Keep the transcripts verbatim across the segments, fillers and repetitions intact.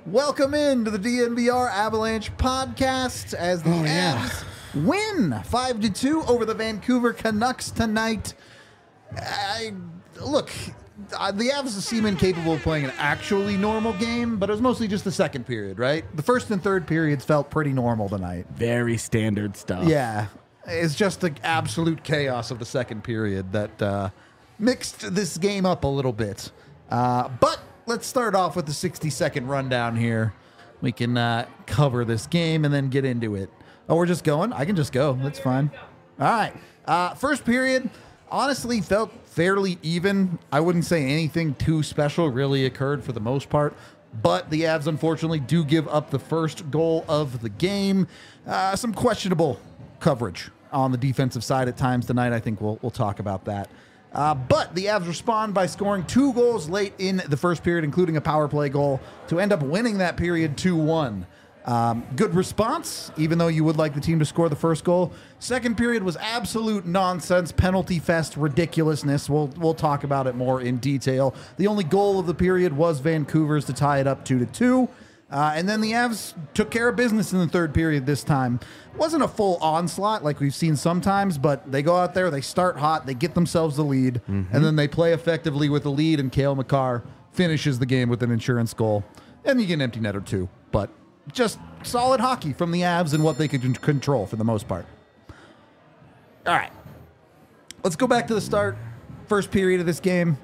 Welcome into the D N V R Avalanche podcast as the Oh, yeah. Avs win five to two over the Vancouver Canucks tonight. I, look, uh, the Avs seem incapable of playing an actually normal game, but it was mostly just the second period, right? The first and third periods felt pretty normal tonight. Very standard stuff. Yeah, it's just the absolute chaos of the second period that uh, mixed this game up a little bit. Uh, but let's start off with the sixty second rundown here. We can uh, cover this game and then get into it. Oh, we're just going? I can just go. That's fine. All right. Uh, first period, honestly, felt fairly even. I wouldn't say anything too special really occurred for the most part. But the Avs, unfortunately, do give up the first goal of the game. Uh, some questionable coverage on the defensive side at times tonight. I think we'll, we'll talk about that. Uh, but the Avs respond by scoring two goals late in the first period, including a power play goal, to end up winning that period two one. Um, good response, even though you would like the team to score the first goal. Second period was absolute nonsense, penalty fest, ridiculousness. We'll we'll talk about it more in detail. The only goal of the period was Vancouver's to tie it up two to two. Uh, and then the Avs took care of business in the third period this time. Wasn't a full onslaught like we've seen sometimes, but they go out there, they start hot, they get themselves the lead, mm-hmm. and then they play effectively with the lead, and Cale Makar finishes the game with an insurance goal. And you get an empty net or two, but just solid hockey from the Avs and what they could control for the most part. All right. Let's go back to the start. First period of this game.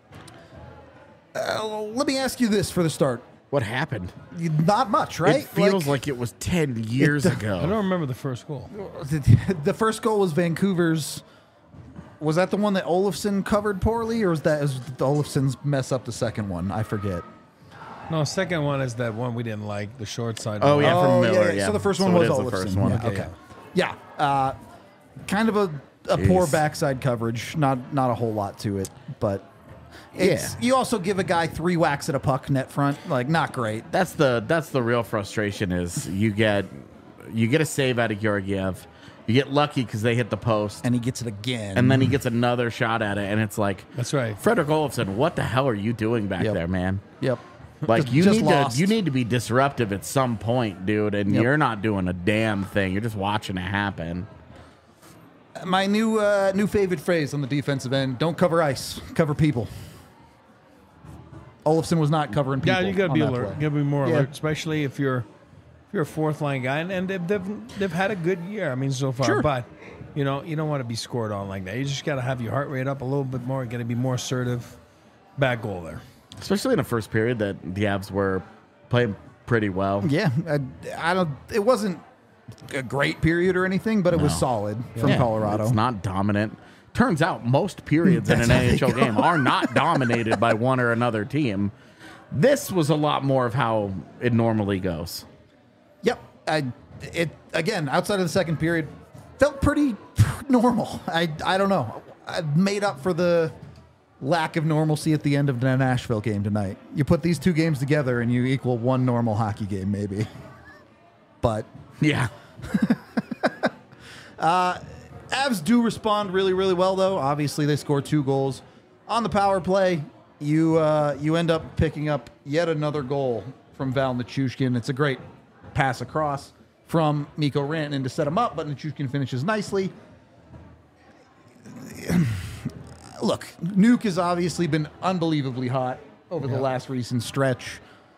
Uh, let me ask you this for the start. What happened? Not much, right? It feels like, like it was ten years it, ago. I don't remember the first goal. The first goal was Vancouver's. Was that the one that Olofsson covered poorly, or was that was Olofsson's mess up the second one? I forget. No, second one is that one we didn't like, the short side. Oh, yeah, from oh, Miller, yeah, yeah. So the first So one it was is the Olofsson. first one. Yeah, Okay, okay. Yeah. Uh, kind of a, a poor backside coverage. Not not a whole lot to it, but it's, Yeah. you also give a guy three whacks at a puck net front. Like, not great. That's the that's the real frustration is you get you get a save out of Georgiev. You get lucky because they hit the post. And he gets it again. And then he gets another shot at it, and it's like, That's right. Frederick Olofsson, what the hell are you doing back Yep. there, man? Yep. Like Just- you just need lost. to you need to be disruptive at some point, dude, and Yep. you're not doing a damn thing. You're just watching it happen. My new uh, new favorite phrase on the defensive end: don't cover ice, cover people. Olofsson was not covering people. Yeah, you got to on be that alert. play. You got to be more Yeah. alert, especially if you're if you're a fourth line guy, and, and they've, they've they've had a good year. I mean, so far, Sure. but you know you don't want to be scored on like that. You just got to have your heart rate up a little bit more. Got to be more assertive. Bad goal there. Especially in the first period that the Avs were playing pretty well. Yeah, I, I don't. It wasn't a great period or anything, but it was No. solid from Yeah, Colorado. It's not dominant. Turns out most periods in That's an how A they H L go. game are not dominated by one or another team. This was a lot more of how it normally goes. Yep. I, it again outside of the second period felt pretty normal. I I don't know. I made up for the lack of normalcy at the end of the Nashville game tonight. You put these two games together and you equal one normal hockey game, maybe. But Yeah. Avs do respond really, really well, though. Obviously, they score two goals on the power play. You uh, you end up picking up yet another goal from Val Nichushkin. It's a great pass across from Mikko Rantanen to set him up, but Nichushkin finishes nicely. Look, Nuke has obviously been unbelievably hot over the Yeah. last recent stretch.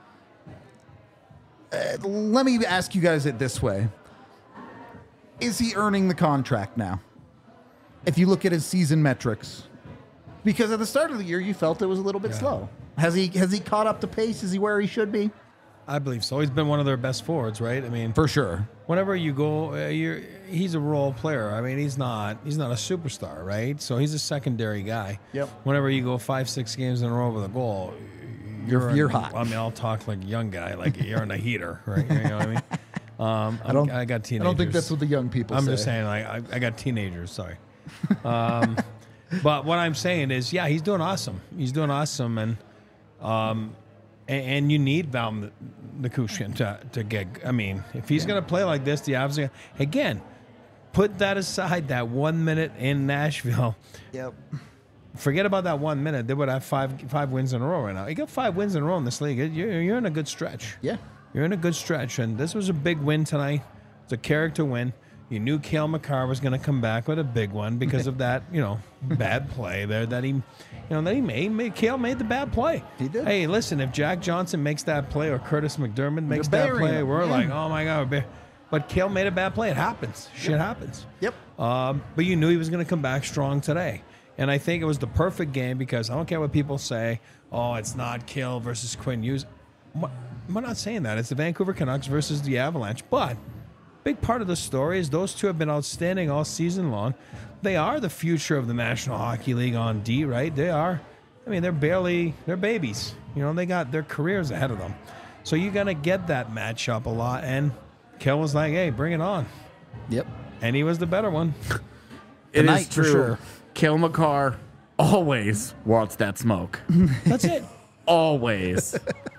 Uh, let me ask you guys it this way. Is he earning the contract now? If you look at his season metrics. Because at the start of the year, you felt it was a little bit Yeah. slow. Has he has he caught up to pace? Is he where he should be? I believe so. He's been one of their best forwards, right? I mean, For sure. whenever you go, uh, you're, he's a role player. I mean, he's not he's not a superstar, right? So he's a secondary guy. Yep. Whenever you go five, six games in a row with a goal, You're- in- you're hot. I mean, I'll talk like a young guy, like you're in a heater, right? You know what I mean? Um, I don't. I got I teenagers. don't think that's what the young people I'm say. just saying, like, I, I got teenagers. Sorry. Um, but what I'm saying is, yeah, he's doing awesome. He's doing awesome, and um, and, and you need Val Nichushkin to to get. I mean, if he's going to play like this, the Avs are gonna, again, put that aside. That one minute in Nashville, Yep. forget about that one minute. They would have five five wins in a row right now. You got five wins in a row in this league. You're, you're in a good stretch. Yeah. You're in a good stretch, and this was a big win tonight. It's a character win. You knew Cale Makar was going to come back with a big one because of that, you know, bad play there that he, you know, that he made. He made Cale made the bad play. He did. Hey, listen, if Jack Johnson makes that play or Curtis McDermott makes You're that burying play, him. we're Yeah. like, oh my god. We're but Cale made a bad play. It happens. Shit happens. Yep. Um, but you knew he was going to come back strong today. And I think it was the perfect game because I don't care what people say. Oh, it's not Cale versus Quinn Hughes. I'm not saying that. It's the Vancouver Canucks versus the Avalanche. But big part of the story is those two have been outstanding all season long. They are the future of the National Hockey League on D, right? They are. I mean, they're barely, they're babies. You know, they got their careers ahead of them. So you're going to get that matchup a lot. And Cale was like, hey, bring it on. Yep. And he was the better one. It Tonight, is for true. sure. Cale Makar always wants that smoke. That's it. Always.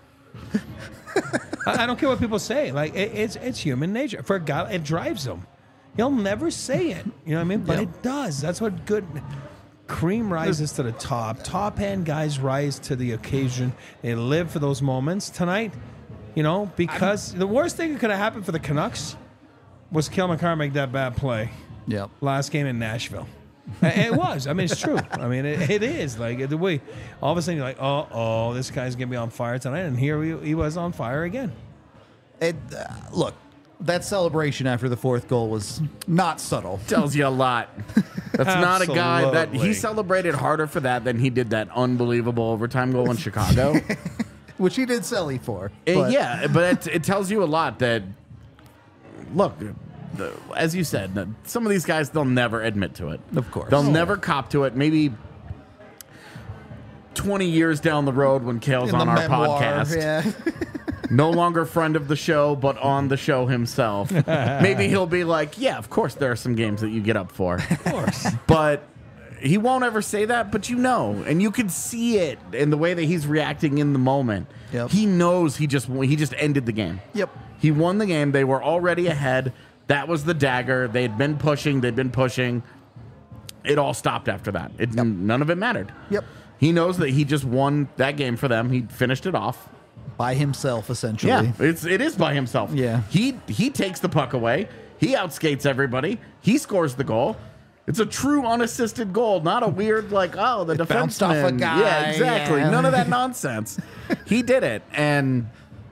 I, I don't care what people say. Like it, it's it's human nature. For a guy, it drives him. He'll never say it. You know what I mean? But Yep. it does. That's what good cream rises to the top. Top end guys rise to the occasion. They live for those moments. Tonight, you know, because I'm, the worst thing that could have happened for the Canucks was Cale Makar make that bad play Yep. last game in Nashville. It was. I mean, it's true. I mean, it, it is. Like, the way all of a sudden you're like, oh, oh, this guy's going to be on fire tonight. And here he, he was on fire again. It, uh, look, that celebration after the fourth goal was not subtle. Tells you a lot. That's not a guy that Absolutely. he celebrated harder for that than he did that unbelievable overtime goal in Chicago. Which he did Selly for. Uh, but- yeah, but it, it tells you a lot that, look, the, as you said, that some of these guys, they'll never admit to it. Of course. They'll Oh. never cop to it. Maybe twenty years down the road when Cale's In on the our memoir, podcast, yeah. no longer friend of the show, but on the show himself, maybe he'll be like, yeah, of course there are some games that you get up for. Of course. But he won't ever say that, but you know, and you can see it in the way that he's reacting in the moment. Yep. He knows he just he just ended the game. Yep. He won the game. They were already ahead. That was the dagger. They had been pushing. They'd been pushing. It all stopped after that. It, Yep. None of it mattered. Yep. He knows that he just won that game for them. He finished it off. By himself, essentially. Yeah, it's it is by himself. Yeah. He he takes the puck away. He outskates everybody. He scores the goal. It's a true unassisted goal, not a weird like oh the defenseman. bounced off a guy, Yeah, exactly. yeah. None of that nonsense. He did it, and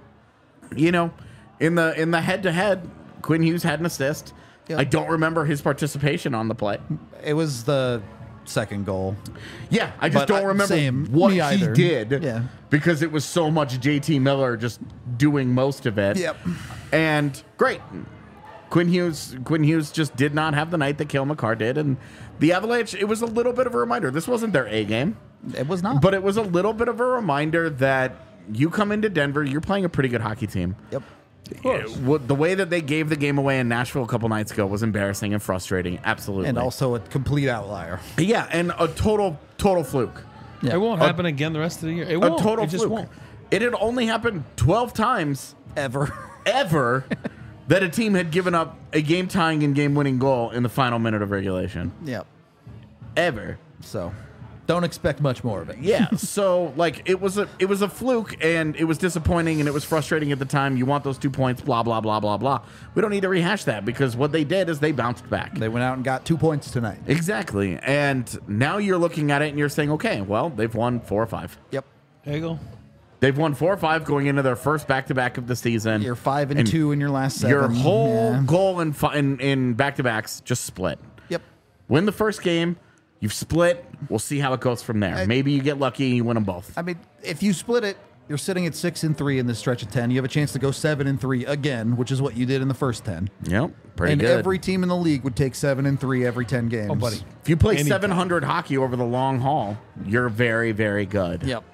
you know, in the in the head to head, Quinn Hughes had an assist. Yeah. I don't remember his participation on the play. It was the second goal. Yeah, I just But don't I- remember same. what Me he either. did. Yeah. Because it was so much J T Miller just doing most of it. Yep. And great. Quinn Hughes Quinn Hughes just did not have the night that Cale Makar did. And the Avalanche, it was a little bit of a reminder. This wasn't their A game, It was not. but it was a little bit of a reminder that you come into Denver, you're playing a pretty good hockey team. Yep. It- what- the way that they gave the game away in Nashville a couple nights ago was embarrassing and frustrating. Absolutely. And also a complete outlier. yeah, and a total, total fluke. Yeah. It won't A- happen again the rest of the year. It A won't. total it just fluke. won't. It had only happened twelve times Ever. ever that a team had given up a game tying and game winning goal in the final minute of regulation. Yep. Ever. So don't expect much more of it. Yeah. So like it was a it was a fluke and it was disappointing and it was frustrating at the time. You want those two points, blah, blah, blah, blah, blah. We don't need to rehash that because what they did is they bounced back. They went out and got two points tonight. Exactly. And now you're looking at it and you're saying, okay, well, they've won four or five. Yep. There you go. They've won four or five going into their first back to back of the season. You're five and, two in your last seven. Your whole Yeah. goal in fi- in, in back-to-backs just split. Yep. Win the first game, you've split. We'll see how it goes from there. I- Maybe you get lucky and you win them both. I mean, if you split it, you're sitting at six and three in this stretch of ten. You have a chance to go seven and three again, which is what you did in the first ten. Yep, pretty and good. every team in the league would take seven and three every ten games. Oh, buddy. if you play Anytime. seven hundred hockey over the long haul, you're very, very good. Yep.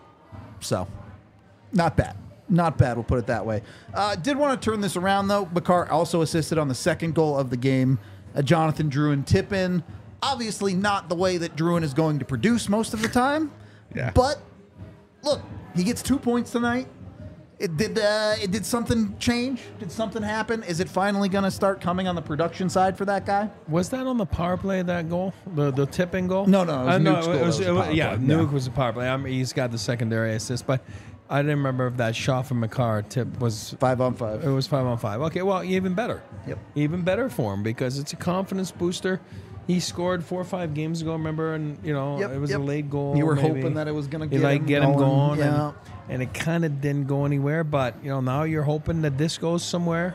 So, not bad. Not bad, we'll put it that way. Uh, did want to turn this around, though. Makar also assisted on the second goal of the game. A Jonathan Drouin tip-in. Obviously not the way that Drouin is going to produce most of the time. Yeah. But, look, he gets two points tonight. It did uh, it did something change? Did something happen? Is it finally going to start coming on the production side for that guy? Was that on the power play, that goal? The the tipping goal? No, no, it was uh, no, Nuke's goal. it was, That was a it was- power yeah, play. Nuke Yeah. was a power play. I mean, he's got the secondary assist, but I didn't remember if that shot from McCarr tip was Five on five. It was five on five. Okay, well, even better. Yep. Even better for him because it's a confidence booster. He scored four or five games ago, remember? And, you know, Yep, it was yep. a late goal. You were maybe. hoping that it was gonna You get like him get him going, going. yeah. And, and it kind of didn't go anywhere. But, you know, now you're hoping that this goes somewhere.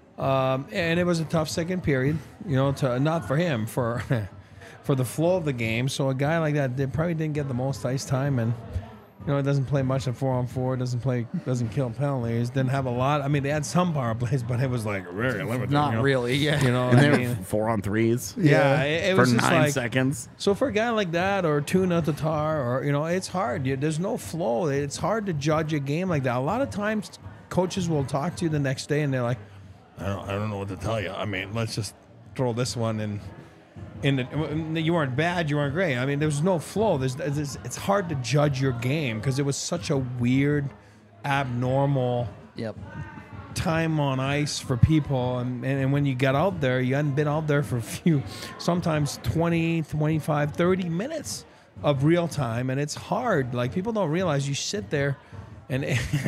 Um, and it was a tough second period, you know, to not for him, for for the flow of the game. So a guy like that they probably didn't get the most ice time. And, you know, it doesn't play much at four on four. Doesn't play, doesn't kill penalties. Didn't have a lot. I mean, they had some power plays, but it was like very limited. Not you know? really, yeah. You know, And I they were mean, four on threes. yeah, it, it for was just nine like seconds. so for a guy like that or Tuna Tatar or you know, it's hard. You, there's no flow. It's hard to judge a game like that. A lot of times, coaches will talk to you the next day and they're like, I don't, I don't know what to tell you. I mean, let's just throw this one in. In the, you weren't bad, you weren't great. I mean, there was no flow. There's, there's it's hard to judge your game because it was such a weird, abnormal Yep. time on ice for people. And, and, and when you got out there, you hadn't been out there for a few, sometimes twenty, twenty-five, thirty minutes of real time. And it's hard. Like, people don't realize you sit there and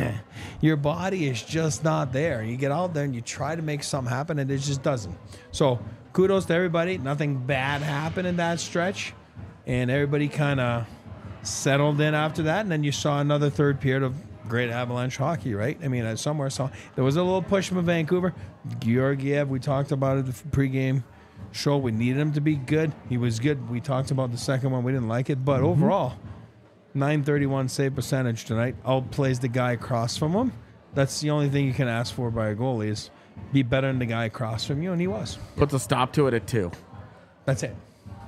your body is just not there. You get out there and you try to make something happen and it just doesn't. So kudos to everybody. Nothing bad happened in that stretch. And everybody kind of settled in after that. And then you saw another third period of great Avalanche hockey, right? I mean, uh, somewhere saw there was a little push from Vancouver. Georgiev, we talked about it the pregame show. We needed him to be good. He was good. We talked about the second one. We didn't like it. But overall, nine thirty-one save percentage tonight. Outplays the guy across from him. That's the only thing you can ask for by a goalie is be better than the guy across from you, and he was. Puts a stop to it at two. That's it.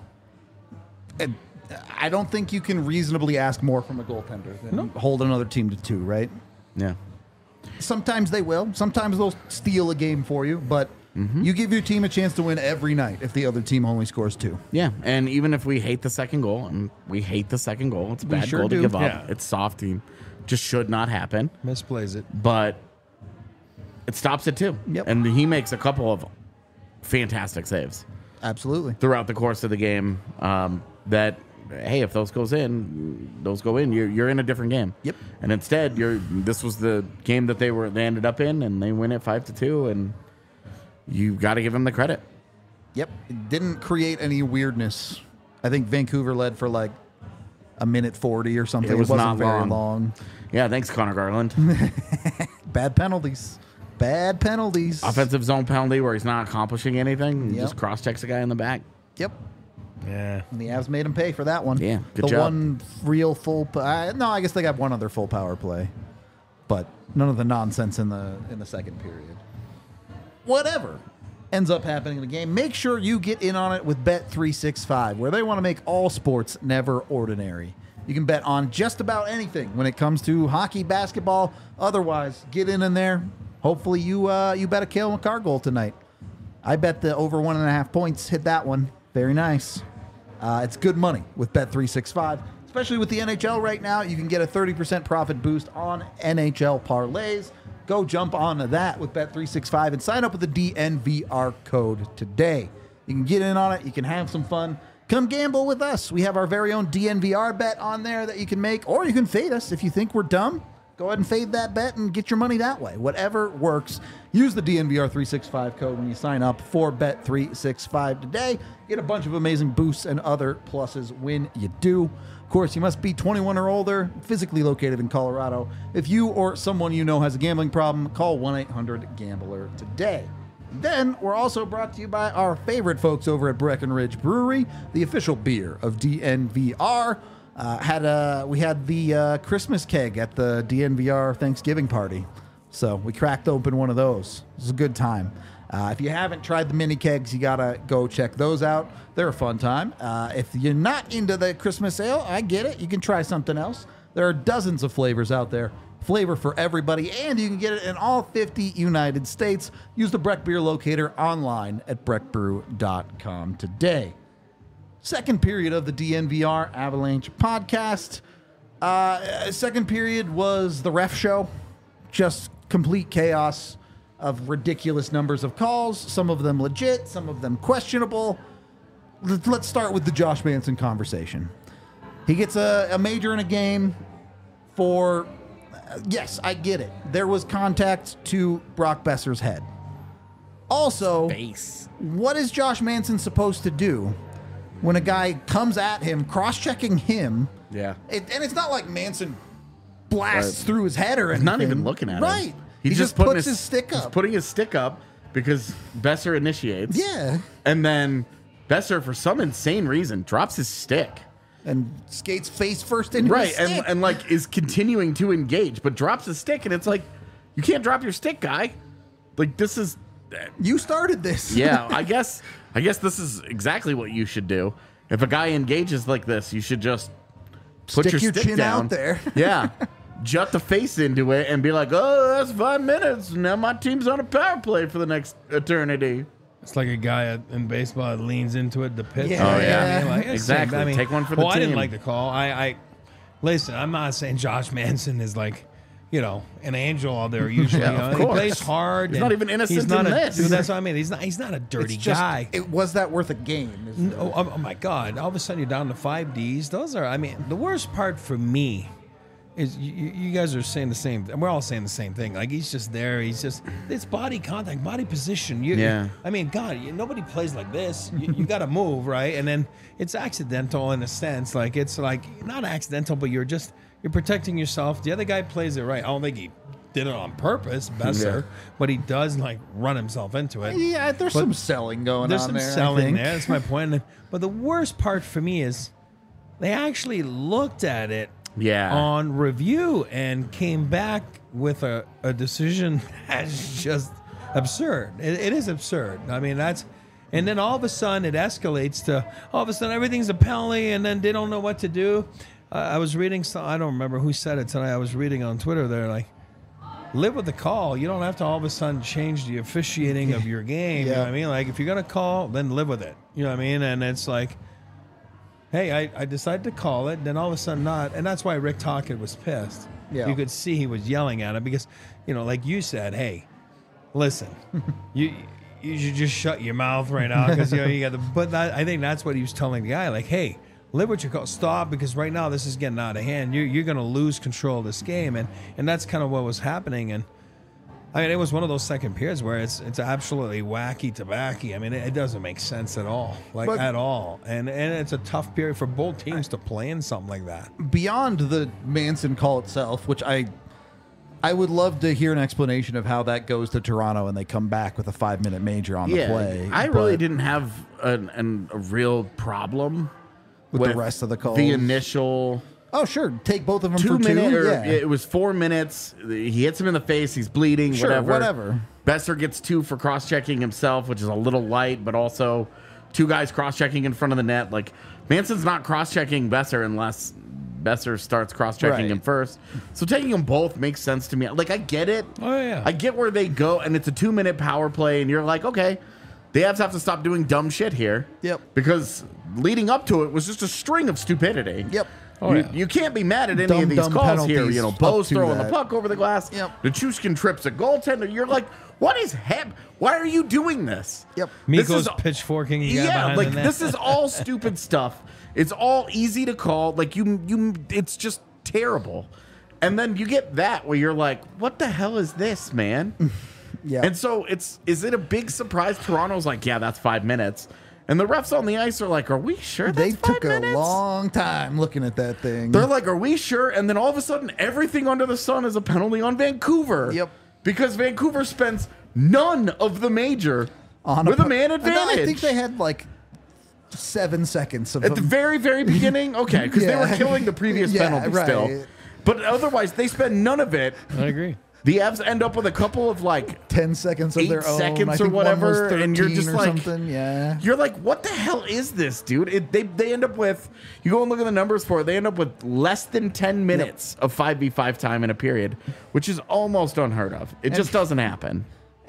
And I don't think you can reasonably ask more from a goaltender than No. hold another team to two, right? Yeah. Sometimes they will. Sometimes they'll steal a game for you, but you give your team a chance to win every night if the other team only scores two. Yeah, and even if we hate the second goal, and we hate the second goal, it's a bad sure goal to do. give up. Yeah. It's soft team. Just should not happen. Misplays it. But it stops at two. Yep. And he makes a couple of fantastic saves Absolutely. throughout the course of the game. Um, that hey, if those goes in, those go in. You're you're in a different game. Yep. And instead, you're this was the game that they were they ended up in, and they win it five to two. And you got to give them the credit. Yep. It didn't create any weirdness. I think Vancouver led for like a minute forty or something. It was wasn't not very long. long. Yeah, thanks, Connor Garland. Bad penalties. Bad penalties. Offensive zone penalty where he's not accomplishing anything. He Yep. just cross checks the guy in the back. Yep. Yeah. And the Avs made him pay for that one. Yeah, good the job. one real full. p- Uh, no, I guess they got one other full power play, but none of the nonsense in the in the second period. Whatever ends up happening in the game, make sure you get in on it with Bet three sixty-five, where they want to make all sports never ordinary. You can bet on just about anything when it comes to hockey, basketball. Otherwise, get in in there. Hopefully, you uh, you bet a Cale McCarr goal tonight. I bet the over one and a half points. Hit that one. Very nice. Uh, it's good money with Bet three sixty-five, especially with the N H L right now. You can get a thirty percent profit boost on N H L parlays. Go jump on that with Bet three sixty-five and sign up with the D N V R code today. You can get in on it. You can have some fun. Come gamble with us. We have our very own D N V R bet on there that you can make, or you can fade us if you think we're dumb. Go ahead and fade that bet and get your money that way. Whatever works. Use the D N V R three sixty-five code when you sign up for Bet three sixty-five today. Get a bunch of amazing boosts and other pluses when you do. Of course, you must be twenty-one or older, physically located in Colorado. If you or someone you know has a gambling problem, call one eight hundred gambler today. Then, we're also brought to you by our favorite folks over at Breckenridge Brewery, the official beer of D N V R. Uh, had a, we had the uh, Christmas keg at the D N V R Thanksgiving party. So we cracked open one of those. It was a good time. Uh, if you haven't tried the mini kegs, you got to go check those out. They're a fun time. Uh, if you're not into the Christmas ale, I get it. You can try something else. There are dozens of flavors out there. Flavor for everybody, and you can get it in all fifty United States. Use the Breck Beer Locator online at breck brew dot com today. Second period of the D N V R Avalanche podcast. Uh, second period was the ref show. just complete chaos of ridiculous numbers of calls, some of them legit, some of them questionable. Let- Let's start with the Josh Manson conversation. He gets a, a major in a game for, uh, yes, I get it. There was contact to Brock Besser's head. Also, Face. what is Josh Manson supposed to do when a guy comes at him, cross-checking him? Yeah. It, and it's not like Manson blasts Right. through his head or anything. He's not even looking at right. him. He, He's just, putting puts his, stick He's up. putting his stick up because Besser initiates. yeah. And then Besser, for some insane reason, drops his stick. And skates face first into Right. his And, stick. and like is continuing to engage, but drops his stick. And it's like, you can't drop your stick, guy. Like, this is. You started this. Yeah, I guess I guess this is exactly what you should do. If a guy engages like this, you should just put Stick your, your stick chin down out there. Yeah. Jut the face into it and be like, oh, that's five minutes. Now my team's on a power play for the next eternity. It's like a guy in baseball that leans into it, the pitch. Yeah. Oh, yeah. I mean, like, it's Exactly. same. I mean, Take one for the well, I didn't team. like the call. I, I listen. I'm not saying Josh Manson is like, you know, an angel out there. Usually, Yeah, you know, of he course. plays hard. He's and not even innocent he's not in a, this. Dude, that's what I mean. He's not. He's not a dirty It's just, guy. it was that worth a game? Is the- Oh, oh, oh my God! All of a sudden you're down to five Ds. Those are, I mean, the worst part for me is you, you you guys are saying the same. We're all saying the same thing. Like he's just there. He's just it's body contact, body position. You, Yeah. I mean, God, you, nobody plays like this. You, you got to move right, and then it's accidental in a sense. Like it's like not accidental, but you're just you're protecting yourself. The other guy plays it right. I don't think he did it on purpose, Besser, but he does like run himself into it. yeah, there's But some selling going There's on some there. I selling think. there. That's my point. But the worst part for me is they actually looked at it Yeah. on review and came back with a, a decision that's just absurd. It, it is absurd. I mean, that's. And then all of a sudden it escalates to all of a sudden everything's a penalty and then they don't know what to do. Uh, I was reading, some, I don't remember who said it tonight. I was reading on Twitter. They're like, live with the call. You don't have to all of a sudden change the officiating of your game. You know Yeah. what I mean? Like, if you're going to call, then live with it. You know what I mean? And it's like, hey, I, I decided to call it, then all of a sudden not. And that's why Rick Tocchet was pissed. Yeah. You could see he was yelling at him because, you know, like you said, hey, listen, you you should just shut your mouth right now because, you know, you got the, but that, I think that's what he was telling the guy. Like, hey, live what you call, stop because right now this is getting out of hand. You're, you're going to lose control of this game. And, and that's kind of what was happening. And, I mean, it was one of those second periods where it's it's absolutely wacky tobacco. I mean, it, it doesn't make sense at all, like But- at all. And and it's a tough period for both teams to play in something like that. Beyond the Manson call itself, which I I would love to hear an explanation of how that goes to Toronto and they come back with a five minute major on the Yeah. play. I really but didn't have an, an, a real problem with, the rest of the calls. The initial. Oh, sure. Take both of them Two for two. minutes, or yeah. it was four minutes. He hits him in the face. He's bleeding. Sure, whatever. whatever. Besser gets two for cross-checking himself, which is a little light, but also two guys cross-checking in front of the net. Like Manson's not cross-checking Besser unless Besser starts cross-checking Right. him first. So taking them both makes sense to me. Like I get it. Oh, yeah. I get where they go, and it's a two-minute power play, and you're like, okay, the Avs have to stop doing dumb shit here. Yep. Because leading up to it was just a string of stupidity. Yep. Oh, you, yeah. you can't be mad at any Dumb, of these dumb calls here. penalties You know, up Bo's to throwing that. the puck over the glass. Yep. Nichushkin trips a goaltender. You're like, what is hap? Why are you doing this? Yep. This Miko's is- pitchforking the guy Yeah, behind like the net. this is all stupid stuff. It's all easy to call. Like you, you, it's just terrible. And then you get that where you're like, what the hell is this, man? Yeah. And so it's is it a big surprise? Toronto's like, yeah, that's five minutes. And the refs on the ice are like, are we sure that's they five took minutes? a long time looking at that thing. They're like, are we sure? And then all of a sudden, everything under the sun is a penalty on Vancouver. Yep. Because Vancouver spends none of the major on with a pu- man No, advantage. I think they had like seven seconds of At the them. very, very beginning, okay, because they were Yeah. killing the previous Yeah, penalty right. still. But otherwise, they spend none of it. I agree. The Avs end up with a couple of like, ten seconds of eight their own. seconds I or think one was whatever, and you're thirteen just or like- something. Yeah. you're like, what the hell is this, dude? It, they they end up with, you go and look at the numbers for it, they end up with less than ten minutes of five v five time in a period, which is almost unheard of. It just doesn't happen.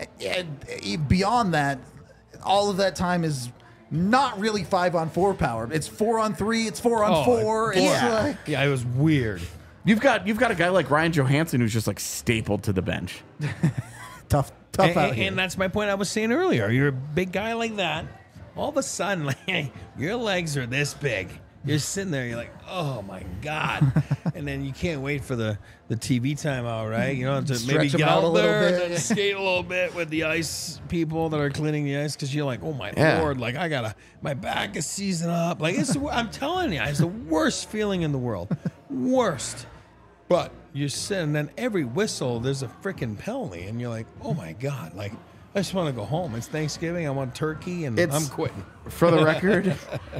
And beyond that, all of that time is not really five on four power. It's four on three. It's four on Oh, four. It's yeah. like Yeah, it was weird. You've got you've got a guy like Ryan Johansson who's just like stapled to the bench. Tough, tough And, out and, here. and that's my point I was saying earlier. You're a big guy like that. All of a sudden, like, your legs are this big. You're sitting there, you're like, oh my God. And then you can't wait for the, the T V timeout, right? You know, to Stretch maybe them get out a out little there bit. and skate a little bit with the ice people that are cleaning the ice because you're like, oh my Yeah. Lord, like I gotta, my back is seizing up. Like, it's, the- I'm telling you, it's the worst feeling in the world. Worst. But you're sitting, then every whistle, there's a freaking penalty. And you're like, oh my God, like, I just want to go home. It's Thanksgiving. I want turkey, and It's- I'm quitting. For the record,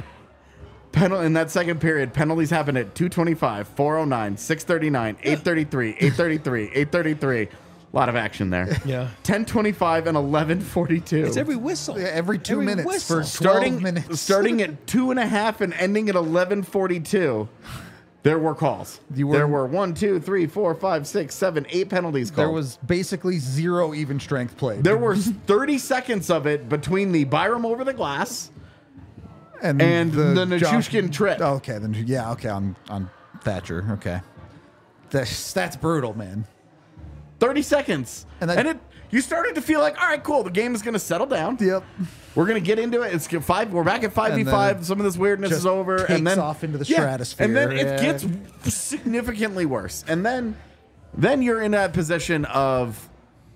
penal in that second period, penalties happened at two twenty-five, four oh nine, six thirty-nine, eight thirty-three, eight thirty-three, eight thirty-three. A lot of action there. Yeah. ten twenty-five and eleven forty-two. It's every whistle. Yeah, every two minutes whistle. for starting twelve minutes. starting at two and a half and ending at eleven forty-two. There were calls. You were- there were one, two, three, four, five, six, seven, eight penalties called. There was basically zero even strength played. there were thirty seconds of it between the Byram over the glass. and, and the Josh- Nichushkin trip. Okay, then yeah, okay, on on Thatcher. Okay, that's that's brutal, man. thirty seconds. And And, that- it you started to feel like, all right, cool, the game is going to settle down. Yep. We're going to get into it. It's five. We're back at five v And then five. it Some of this weirdness just is over, takes and then off into the Yeah, stratosphere. And then it Yeah. gets significantly worse. And then, then you're in that position of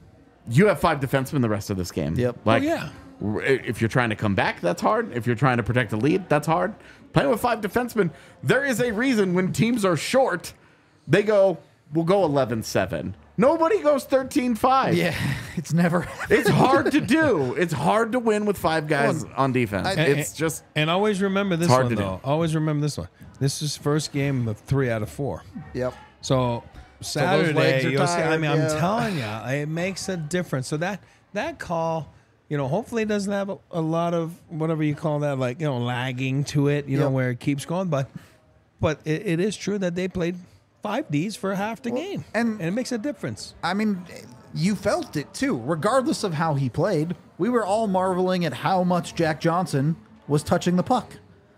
you have five defensemen the rest of this game. Yep. Like, Oh, yeah. r- if you're trying to come back, that's hard. If you're trying to protect the lead, that's hard. Playing with five defensemen, there is a reason when teams are short, they go, we'll go eleven seven. Nobody goes thirteen five. Yeah, it's never. It's hard to do. It's hard to win with five guys Well, on defense. I- it's just And always remember this hard one, to do. though. Always remember this one. This is first game of three out of four. Yep. So legs Saturday, are you'll see. I tired, mean, I'm yeah. telling you, it makes a difference. So that that call, you know, hopefully it doesn't have a, a lot of whatever you call that, like you know, lagging to it. You know, Yep. where it keeps going. But but it, it is true that they played five Ds for half the game, and- and it makes a difference. I mean, you felt it too. Regardless of how he played, we were all marveling at how much Jack Johnson was touching the puck.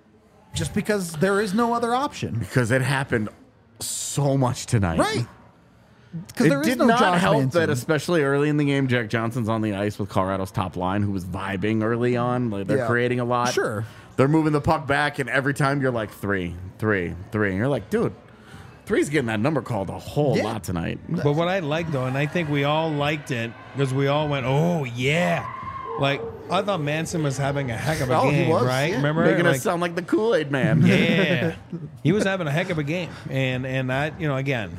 Just because there is no other option. because it happened so much tonight. Right. Because It there is did no not Josh help Manson. that, especially early in the game, Jack Johnson's on the ice with Colorado's top line, who was vibing early on. Like they're Yeah. creating a lot. Sure. They're moving the puck back, and every time you're like three, three, three, and you're like, dude, three's getting that number called a whole Yeah. lot tonight. But what I liked though, and I think we all liked it because we all went, "Oh yeah!" Like I thought Manson was having a heck of a Oh, he game, was, right? yeah. Remember, Making like, us sound like the Kool-Aid man. yeah, he was having a heck of a game, and and that you know again,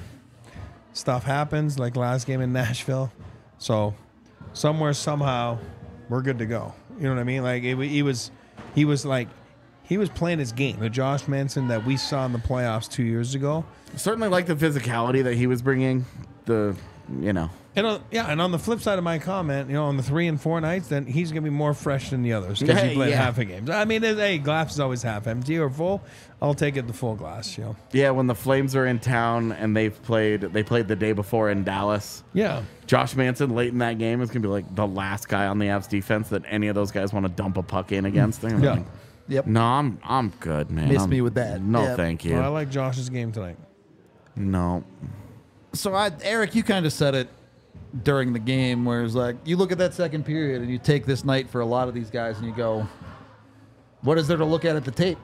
stuff happens like last game in Nashville, so somewhere somehow we're good to go. You know what I mean? Like it, he was, he was like. He was playing his game, the Josh Manson that we saw in the playoffs two years ago. Certainly like the physicality that he was bringing. The, you know. And on, yeah, and on the flip side of my comment, you know, on the three and four nights, then he's going to be more fresh than the others because Hey, he played yeah. half a game. I mean, hey, glass is always half empty or full. I'll take it the full glass, you know. Yeah, when the Flames are in town and they've played, they played the day before in Dallas. Yeah. Josh Manson late in that game is going to be like the last guy on the Avs defense that any of those guys want to dump a puck in against. Them. Yeah. Like, Yep. no, I'm I'm good, man. Miss I'm- me with that. No, Yep. thank you. Well, I like Josh's game tonight. no. So, I, Eric, you kind of said it during the game where it's like, you look at that second period and you take this night for a lot of these guys and you go, what is there to look at at the tape?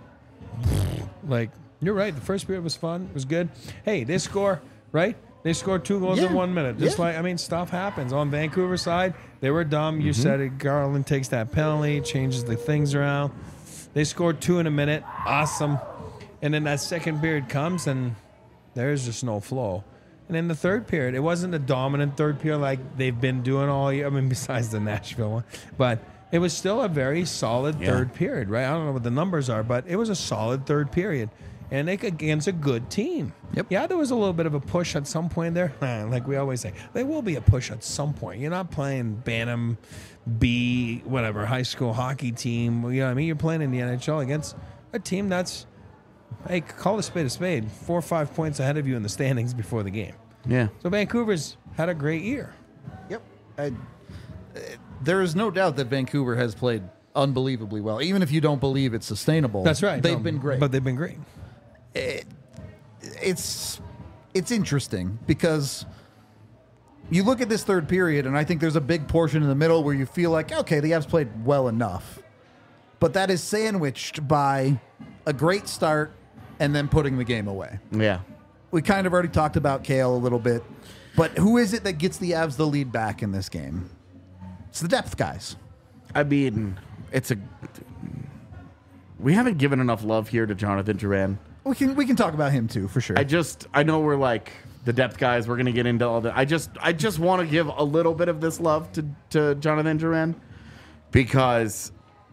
Like, you're right. The first period was fun. It was good. Hey, they score, right? They scored two goals Yeah. in one minute. Just Yeah. like, I mean, stuff happens. On Vancouver side, they were dumb. Mm-hmm. You said it. Garland takes that penalty, changes the things around. They scored two in a minute. Awesome. And then that second period comes and there's just no flow. And in the third period, it wasn't a dominant third period like they've been doing all year. I mean, besides the Nashville one. But it was still a very solid Yeah. third period, right? I don't know what the numbers are, but it was a solid third period. And it, against a good team. Yep. Yeah, there was a little bit of a push at some point there. Like we always say, there will be a push at some point. You're not playing Bantam B, whatever, high school hockey team. You know what I mean? You're playing in the N H L against a team that's, hey, call a spade a spade, four or five points ahead of you in the standings before the game. Yeah. So Vancouver's had a great year. Yep. I, uh, there is no doubt that Vancouver has played unbelievably well. Even if you don't believe it's sustainable. That's right. They've No, been great. But they've been great. it's it's interesting because you look at this third period, and I think there's a big portion in the middle where you feel like, okay, the Avs played well enough. But that is sandwiched by a great start and then putting the game away. Yeah. We kind of already talked about Kale a little bit, but who is it that gets the Avs the lead back in this game? It's the depth guys. I mean, it's a. We haven't given enough love here to Jonathan Duran. We can we can talk about him too, for sure. I just I know we're like the depth guys. We're gonna get into all that. I just I just want to give a little bit of this love to to Jonathan Duran because.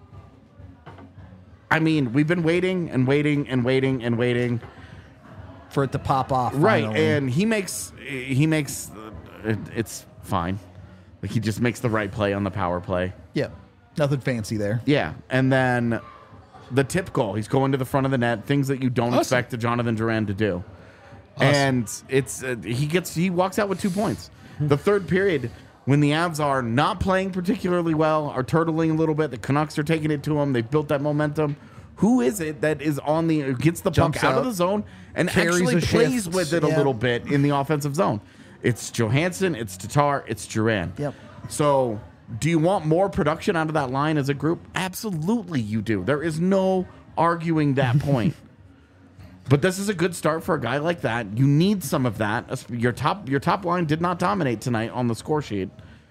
I mean, we've been waiting and waiting and waiting and waiting for it to pop off, right? finally. And he makes he makes it, it's fine. Like he just makes the right play on the power play. Yeah, nothing fancy there. Yeah, and then the tip goal. He's going to the front of the net. Things that you don't Awesome. expect a Jonathan Duran to do. Awesome. And it's uh, he gets he walks out with two points. The third period, when the Avs are not playing particularly well, are turtling a little bit, the Canucks are taking it to them. They've built that momentum. Who is it that is on the gets the Jumps puck out, out, of the zone and carries actually a plays shift, with it a yeah. little bit in the offensive zone? It's Johansson, it's Tatar, it's Duran. Yep. So, do you want more production out of that line as a group? Absolutely, you do. There is no arguing that point. But this is a good start for a guy like that. You need some of that. Your top your top line did not dominate tonight on the score sheet.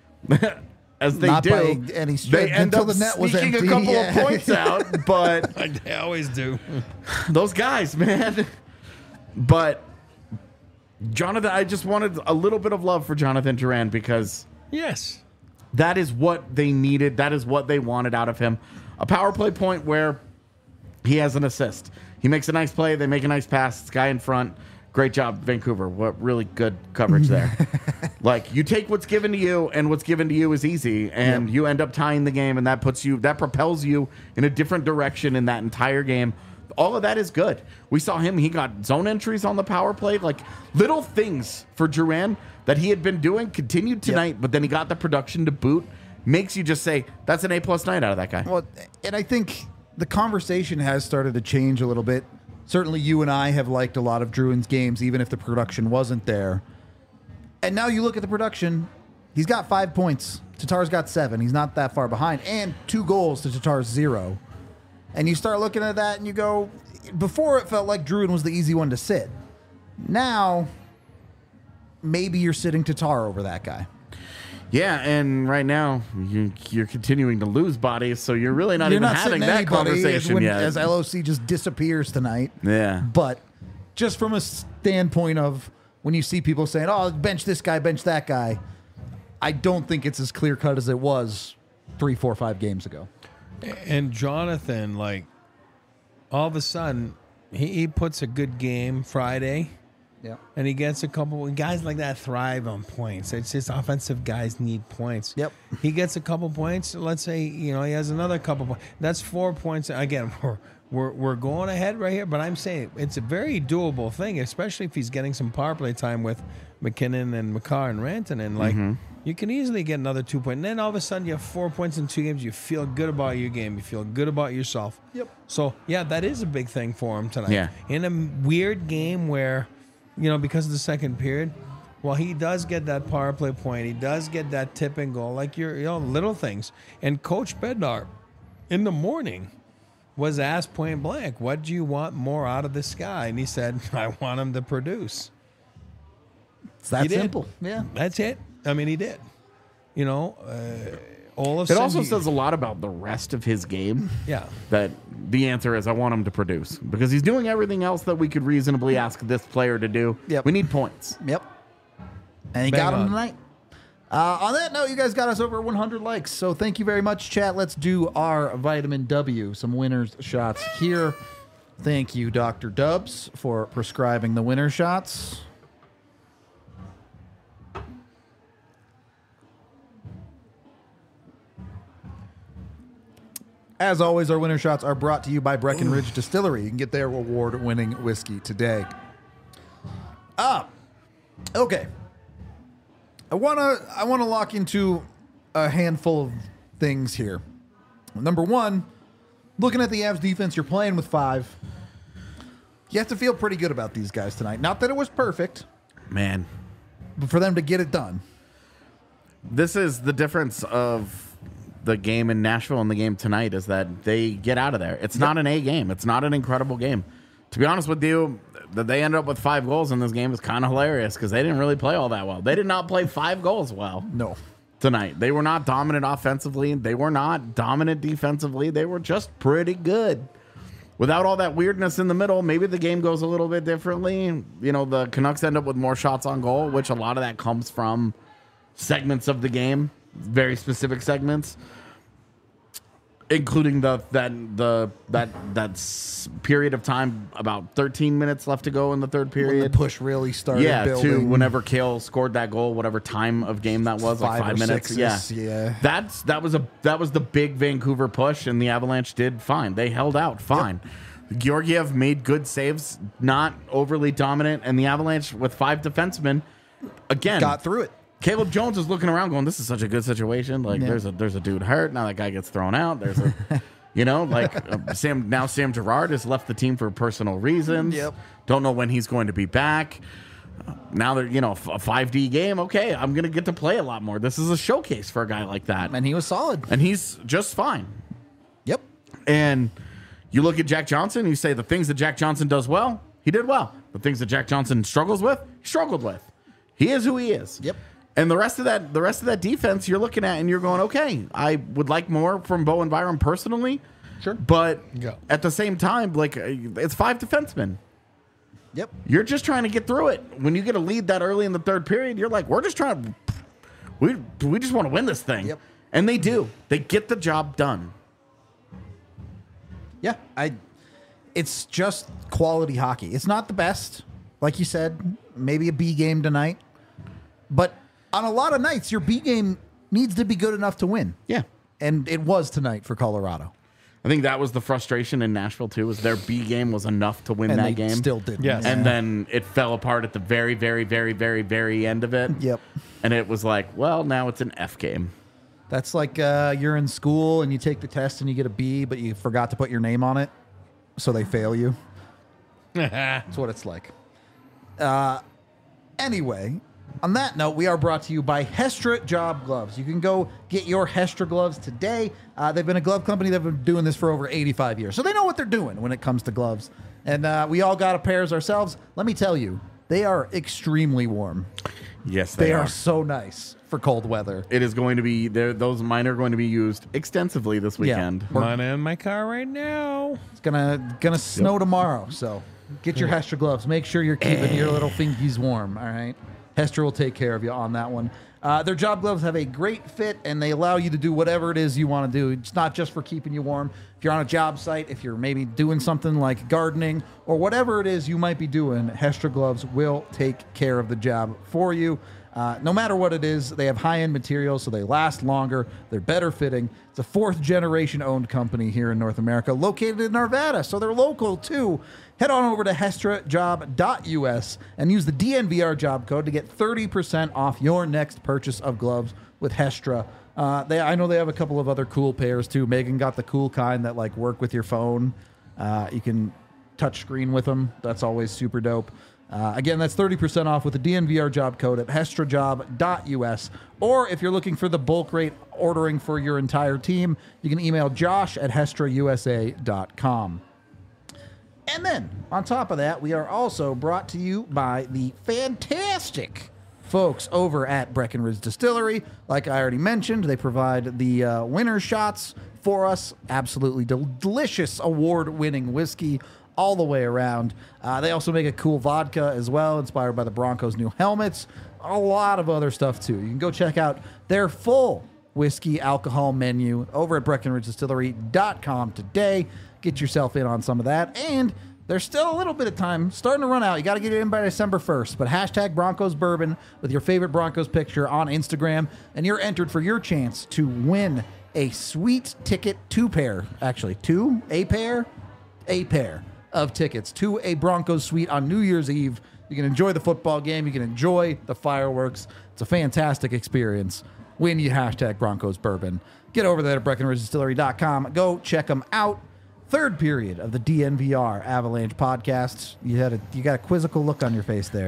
As they Not do, by any stretch, they end until up the net was sneaking empty, a couple yeah. of points out. But Like they always do. those guys, man. But Jonathan, I just wanted a little bit of love for Jonathan Duran because Yes. that is what they needed. That is what they wanted out of him. A power play point where he has an assist. He makes a nice play. They make a nice pass. It's guy in front. Great job, Vancouver. What really good coverage there. Like, you take what's given to you, and what's given to you is easy, and Yep. you end up tying the game, and that puts you, that propels you in a different direction in that entire game. All of that is good. We saw him. He got zone entries on the power play. Like, little things for Duran that he had been doing continued tonight, but then he got the production to boot. Makes you just say, that's an A-plus night out of that guy. Well, and I think the conversation has started to change a little bit. Certainly, you and I have liked a lot of Druin's games, even if the production wasn't there. And now you look at the production, he's got five points. Tatar's got seven. He's not that far behind. And two goals to Tatar's zero. And you start looking at that and you go, before it felt like Druin was the easy one to sit. Now, maybe you're sitting Tatar over that guy. Yeah, and right now you, you're continuing to lose bodies, so you're really not You're even not having sitting that anybody as, conversation when, yet. as L O C just disappears tonight. Yeah. But just from a standpoint of when you see people saying, oh, bench this guy, bench that guy, I don't think it's as clear cut as it was three, four, five games ago. And Jonathan, like, all of a sudden, he, he puts a good game Friday, Yeah. and he gets a couple. Guys like that thrive on points. It's just offensive guys need points. Yep. He gets a couple points. Let's say, you know, he has another couple points. That's four points. Again, we're, we're, we're going ahead right here, but I'm saying it's a very doable thing, especially if he's getting some power play time with McKinnon and McCarr and Rantanen. Like, you can easily get another two points. And then all of a sudden you have four points in two games. You feel good about your game. You feel good about yourself. Yep. So, yeah, that is a big thing for him tonight. Yeah. In a weird game where, you know, because of the second period, well, he does get that power play point. He does get that tip and goal, like your, you know, little things. And Coach Bednar, in the morning, was asked point blank, what do you want more out of this guy? And he said, I want him to produce. It's that He did. simple. Yeah. That's it. I mean, he did. You know, uh, all of a It sudden. also you- says a lot about the rest of his game. yeah. That the answer is I want him to produce because he's doing everything else that we could reasonably ask this player to do. Yep. We need points. Yep. And he Bang got him on. tonight. Uh, on that note, you guys got us over one hundred likes. So thank you very much, chat. Let's do our vitamin W, some winners shots here. Thank you, Doctor Dubs, for prescribing the winner shots. As always, our winner shots are brought to you by Breckenridge Distillery. You can get their award-winning whiskey today. Ah, okay. I wanna I wanna lock into a handful of things here. Number one, looking at the Avs defense, you're playing with five. You have to feel pretty good about these guys tonight. Not that it was perfect. Man, for them to get it done. this is the difference of the game in Nashville and the game tonight is that they get out of there. It's not an A game. It's not an incredible game. To be honest with you, that they ended up with five goals in this game is kind of hilarious because they didn't really play all that well. They did not play five goals well No. tonight. They were not dominant offensively. They were not dominant defensively. They were just pretty good. Without all that weirdness in the middle, maybe the game goes a little bit differently. You know, the Canucks end up with more shots on goal, which a lot of that comes from segments of the game, very specific segments, including the that the that that s- period of time, about thirteen minutes left to go in the third When the period. push really started Yeah, building. to whenever Kale scored that goal, whatever time of game that was, like Five five or minutes. sixes, yeah, yeah. That's that was a that was the big Vancouver push, and the Avalanche did fine. They held out fine. Georgiev made good saves, not overly dominant, and the Avalanche with five defensemen again got through it. Caleb Jones is looking around, going, "This is such a good situation. Like, Yeah. there's a there's a dude hurt now. That guy gets thrown out. There's a, you know, like uh, Sam now Sam Girard has left the team for personal reasons. Yep. Don't know when he's going to be back. Uh, now they're you know f- a five D game. Okay, I'm gonna get to play a lot more. This is a showcase for a guy like that, And he was solid. and he's just fine. Yep. And you look at Jack Johnson, you say the things that Jack Johnson does well, he did well. The things that Jack Johnson struggles with, he struggled with. He is who he is. Yep. And the rest of that, the rest of that defense, you're looking at and you're going, okay, I would like more from Bowen Byram personally. Sure. But Yeah. at the same time, like uh, it's five defensemen. Yep. You're just trying to get through it. When you get a lead that early in the third period, you're like, we're just trying to, we we just want to win this thing. Yep. And they do. They get the job done. Yeah, I. It's just quality hockey. It's not the best, like you said. Maybe a B game tonight, but on a lot of nights, your B game needs to be good enough to win. Yeah. And it was tonight for Colorado, I think that was the frustration in Nashville too. Was their B game was enough to win and that they game, still didn't. Yes. Yeah. and then it fell apart at the very, very, very, very, very end of it. Yep. And it was like, well, now it's an F game. That's like uh, you're in school and you take the test and you get a B, but you forgot to put your name on it, so they fail you. That's what it's like. Uh, anyway, on that note, we are brought to you by Hestra Job Gloves. You can go get your Hestra gloves today. Uh, they've been a glove company that have been doing this for over eighty-five years, so they know what they're doing when it comes to gloves. And uh, we all got a pairs ourselves. Let me tell you, they are extremely warm. Yes, They are so nice for cold weather. It is going to be there. Those mine are going to be used extensively this weekend. Yeah. I'm in my car right now. It's gonna gonna snow tomorrow, so get your Hestra gloves. Make sure you're keeping your little fingies warm. All right, Hestra will take care of you on that one. Uh, their job gloves have a great fit, and they allow you to do whatever it is you want to do. It's not just for keeping you warm. If you're on a job site, if you're maybe doing something like gardening or whatever it is you might be doing, Hestra gloves will take care of the job for you. Uh, no matter what it is, they have high-end materials, so they last longer. They're better fitting. It's a fourth-generation owned company here in North America, located in Arvada, so they're local too. Head on over to hestra job dot U S and use the D N V R job code to get thirty percent off your next purchase of gloves with Hestra. Uh, they, I know they have a couple of other cool pairs too. Megan got the cool kind that like work with your phone. Uh, you can touch screen with them. That's always super dope. Uh, again, that's thirty percent off with the D N V R job code at hestra job dot U S. Or if you're looking for the bulk rate ordering for your entire team, you can email josh at hestra u s a dot com. And then, on top of that, we are also brought to you by the fantastic folks over at Breckenridge Distillery. Like I already mentioned, they provide the uh, winter shots for us. Absolutely del- delicious award-winning whiskey all the way around. Uh, they also make a cool vodka as well, inspired by the Broncos' new helmets. A lot of other stuff, too. You can go check out their full whiskey alcohol menu over at breckenridge distillery dot com today. Get yourself in on some of that. And there's still a little bit of time starting to run out. You got to get it in by December first. But hashtag Broncos Bourbon with your favorite Broncos picture on Instagram, and you're entered for your chance to win a sweet ticket, two pair, actually two, a pair, a pair of tickets to a Broncos suite on New Year's Eve. You can enjoy the football game. You can enjoy the fireworks. It's a fantastic experience when you hashtag Broncos Bourbon. Get over there at breckenridge distillery dot com. Go check them out. Third period of the D N V R Avalanche podcast. You had a you got a quizzical look on your face there.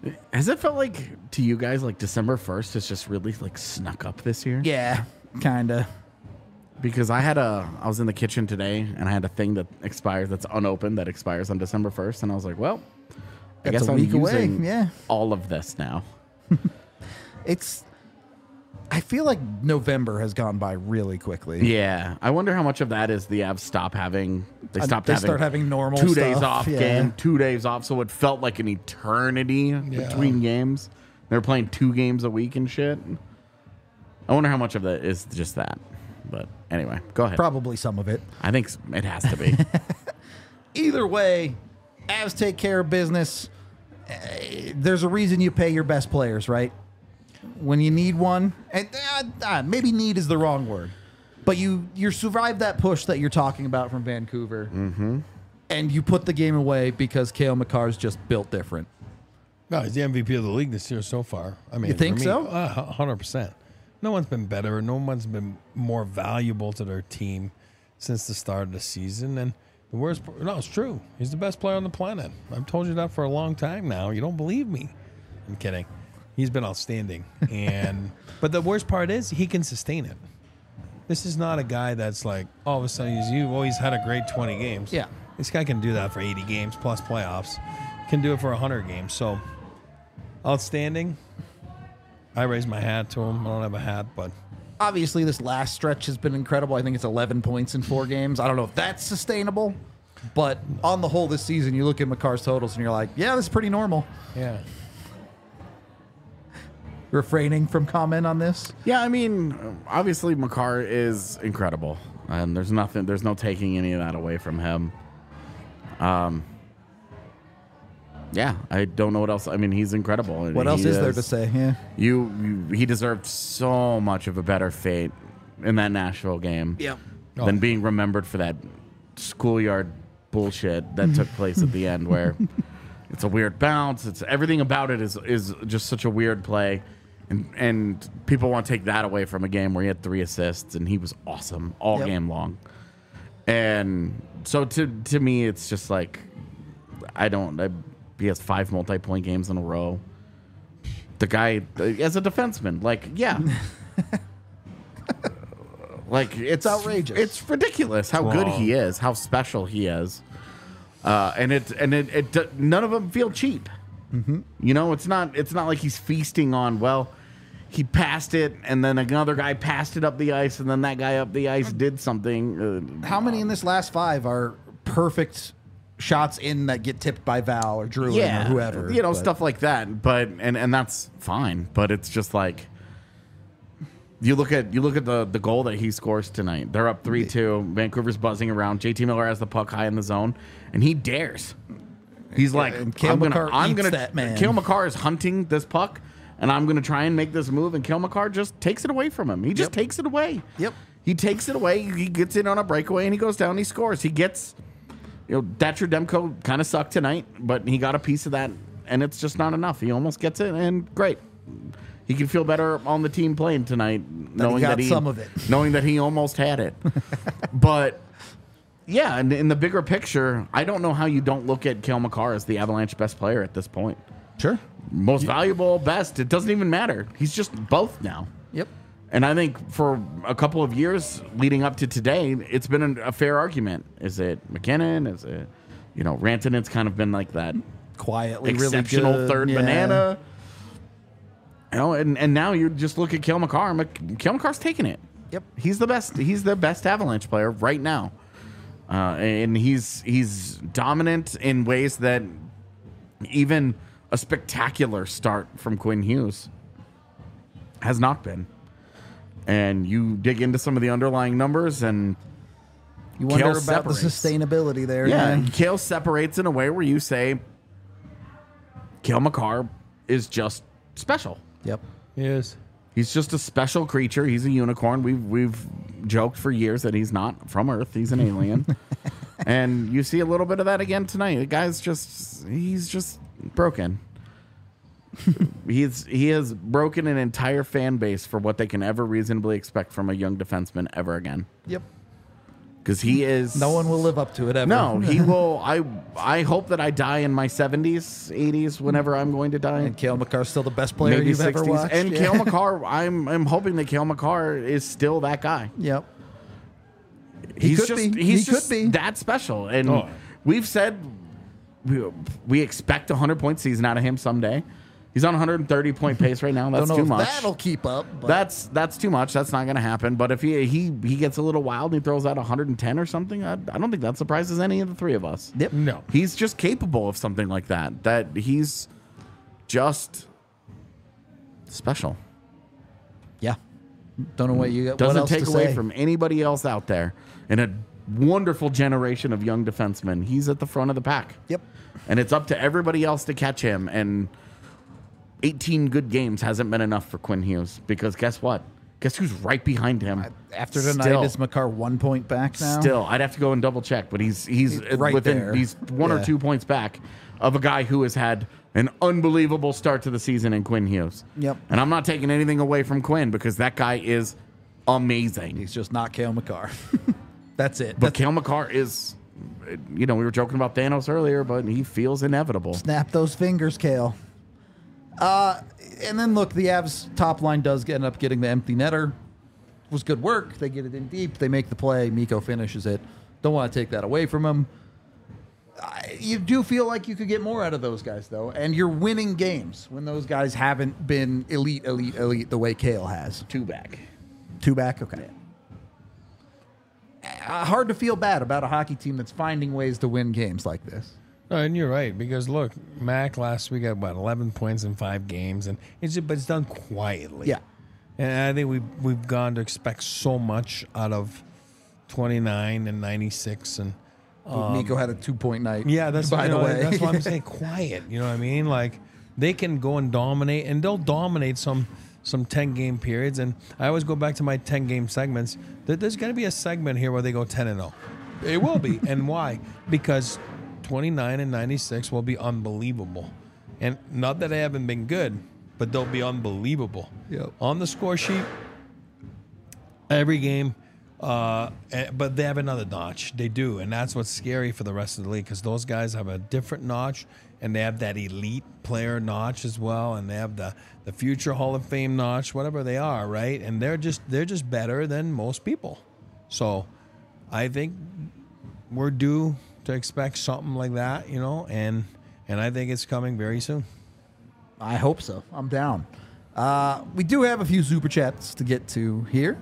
Has it felt like to you guys like December first has just really like snuck up this year? Yeah, kind of. Because I had a, I was in the kitchen today and I had a thing that expires, that's unopened, that expires on December first. And I was like, well, I That's guess a I'm week away, using yeah. all of this now. It's. I feel like November has gone by really quickly. Yeah. I wonder how much of that is the Avs stop having, they Uh, stopped they having start having normal two days stuff, off yeah. game, two days off. So it felt like an eternity between games. They were playing two games a week and shit. I wonder how much of that is just that. But anyway, go ahead. Probably some of it. I think it has to be. Either way, Avs take care of business. Uh, there's a reason you pay your best players, right? When you need one, and uh, uh, maybe need is the wrong word, but you you survived that push that you're talking about from Vancouver, mm-hmm. and you put the game away because Cale Makar's just built different. No, he's the M V P of the league this year so far. I mean, You think for me, so? Uh, one hundred percent. No one's been better. No one's been more valuable to their team since the start of the season. And the worst part, no, it's true. He's the best player on the planet. I've told you that for a long time now. You don't believe me. I'm kidding. He's been outstanding. And but the worst part is he can sustain it. This is not a guy that's like, all of a sudden, he's, you've always had a great twenty games. Yeah. This guy can do that for eighty games plus playoffs. Can do it for one hundred games. So, outstanding. I raise my hat to him. I don't have a hat, but Obviously, this last stretch has been incredible. I think it's eleven points in four games. I don't know if that's sustainable, but on the whole, this season, you look at Makar's totals and you're like, yeah, this is pretty normal. yeah. Refraining from comment on this. Yeah, I mean, obviously Makar is incredible, and there's nothing, there's no taking any of that away from him. Um, yeah, I don't know what else. I mean, he's incredible. What else He is there to say? Yeah. You, you, he deserved so much of a better fate in that Nashville game Yep. than being remembered for that schoolyard bullshit that took place at the end, where it's a weird bounce. It's everything about it is is just such a weird play. And, and people want to take that away from a game where he had three assists and he was awesome all Yep. game long. And so to to me, it's just like, I don't. I, he has five multi-point games in a row. The guy, as a defenseman, like, yeah, like it's outrageous. It's ridiculous how good wrong. he is, how special he is, uh, and it and it, it none of them feel cheap. Mm-hmm. You know, it's not it's not like he's feasting on, well, he passed it and then another guy passed it up the ice and then that guy up the ice did something. Uh, How many in this last five are perfect shots in that get tipped by Val or Drew yeah, or whoever? you know, But stuff like that. But and and that's fine. But it's just like, you look at you look at the the goal that he scores tonight. They're up three two. Vancouver's buzzing around. J T Miller has the puck high in the zone, and he dares. He's like, and Cale I'm gonna, Makar I'm eats gonna. that man. Cale Makar is hunting this puck, and I'm gonna try and make this move. And Cale Makar just takes it away from him. He just Yep. takes it away. Yep. He takes it away. He gets in on a breakaway, and he goes down. And he scores. He gets. You know, Thatcher Demko kind of sucked tonight, but he got a piece of that, and it's just not enough. He almost gets it, and great. He can feel better on the team playing tonight, knowing got that he some of it. knowing that he almost had it. But yeah, and in the bigger picture, I don't know how you don't look at Cale Makar as the Avalanche best player at this point. Sure. Most valuable, best. It doesn't even matter. He's just both now. Yep. And I think for a couple of years leading up to today, it's been a, a fair argument. Is it McKinnon? Is it, you know, Rantanen's kind of been like that Quietly, exceptional really good. third Yeah. banana. You know, and, and now you just look at Cale Makar. Mc- Cale Makar's taking it. Yep. He's the best. He's the best Avalanche player right now, uh, and he's he's dominant in ways that even a spectacular start from Quinn Hughes has not been. And you dig into some of the underlying numbers, and You wonder Cale about the separates. sustainability there. yeah, Yeah. Cale separates in a way where you say Cale Makar is just special. Yep. Yes. He's just a special creature. He's a unicorn. We've we've joked for years that he's not from Earth. He's an alien, and you see a little bit of that again tonight. The guy's just he's just broken. he's he has broken an entire fan base for what they can ever reasonably expect from a young defenseman ever again. Yep. because he is. No one will live up to it ever. No, he will. I I hope that I die in my seventies, eighties, whenever I'm going to die. And Cale Makar's still the best player Maybe you've ever sixties. watched. And Yeah. Cale Makar, I'm I'm hoping that Cale Makar is still that guy. Yep. He He's could just be. he's He just could be. that special. And Oh. we've said we, we expect a hundred point season out of him someday. He's on a one hundred thirty point pace right now. That's Don't know too if much. that'll keep up. But That's that's too much. That's not going to happen. But if he he he gets a little wild and he throws out one hundred ten or something, I, I don't think that surprises any of the three of us. Yep. No. He's just capable of something like that. That he's just special. Yeah. Don't know what you got. what Doesn't else take to away say. from anybody else out there. And a wonderful generation of young defensemen. He's at the front of the pack. Yep. And it's up to everybody else to catch him. And eighteen good games hasn't been enough for Quinn Hughes because guess what? Guess who's right behind him? After tonight, Still. is Makar one point back now? Still, I'd have to go and double check, but he's he's, He's right within there. he's one Yeah. or two points back of a guy who has had an unbelievable start to the season in Quinn Hughes. Yep. And I'm not taking anything away from Quinn because that guy is amazing. He's just not Cale Makar. That's it. But That's, Cale Makar is, you know, we were joking about Thanos earlier, but he feels inevitable. snap those fingers, Cale. Uh, and then look, the Avs top line does end up getting the empty netter. It was good work. They get it in deep. They make the play. Mikko finishes it. Don't want to take that away from him. I, you do feel like you could get more out of those guys, though. And you're winning games when those guys haven't been elite, elite, elite the way Cale has. Two back. Two back? Okay. Uh, hard to feel bad about a hockey team that's finding ways to win games like this. No, and you're right because look, Mac last week had what eleven points in five games, and it's just, but it's done quietly. Yeah. And I think we've we've gone to expect so much out of twenty-nine and ninety-six, and Mikko had a two-point night. yeah, that's by you the know, way. that's why I'm saying quiet. You know what I mean? Like they can go and dominate, and they'll dominate some some ten game periods. And I always go back to my ten game segments. There- There's going to be a segment here where they go ten and zero. It will be, and why? Because twenty-nine and ninety-six will be unbelievable, and not that they haven't been good, but they'll be unbelievable. Yep. On the score sheet, every game. Uh, eh, but they have another notch. They do, and that's what's scary for the rest of the league because those guys have a different notch, and they have that elite player notch as well, and they have the, the future Hall of Fame notch, whatever they are, right? And they're just they're just better than most people. So, I think we're due to expect something like that, you know, and and I think it's coming very soon. I hope so. I'm down. Uh, we do have a few super chats to get to here.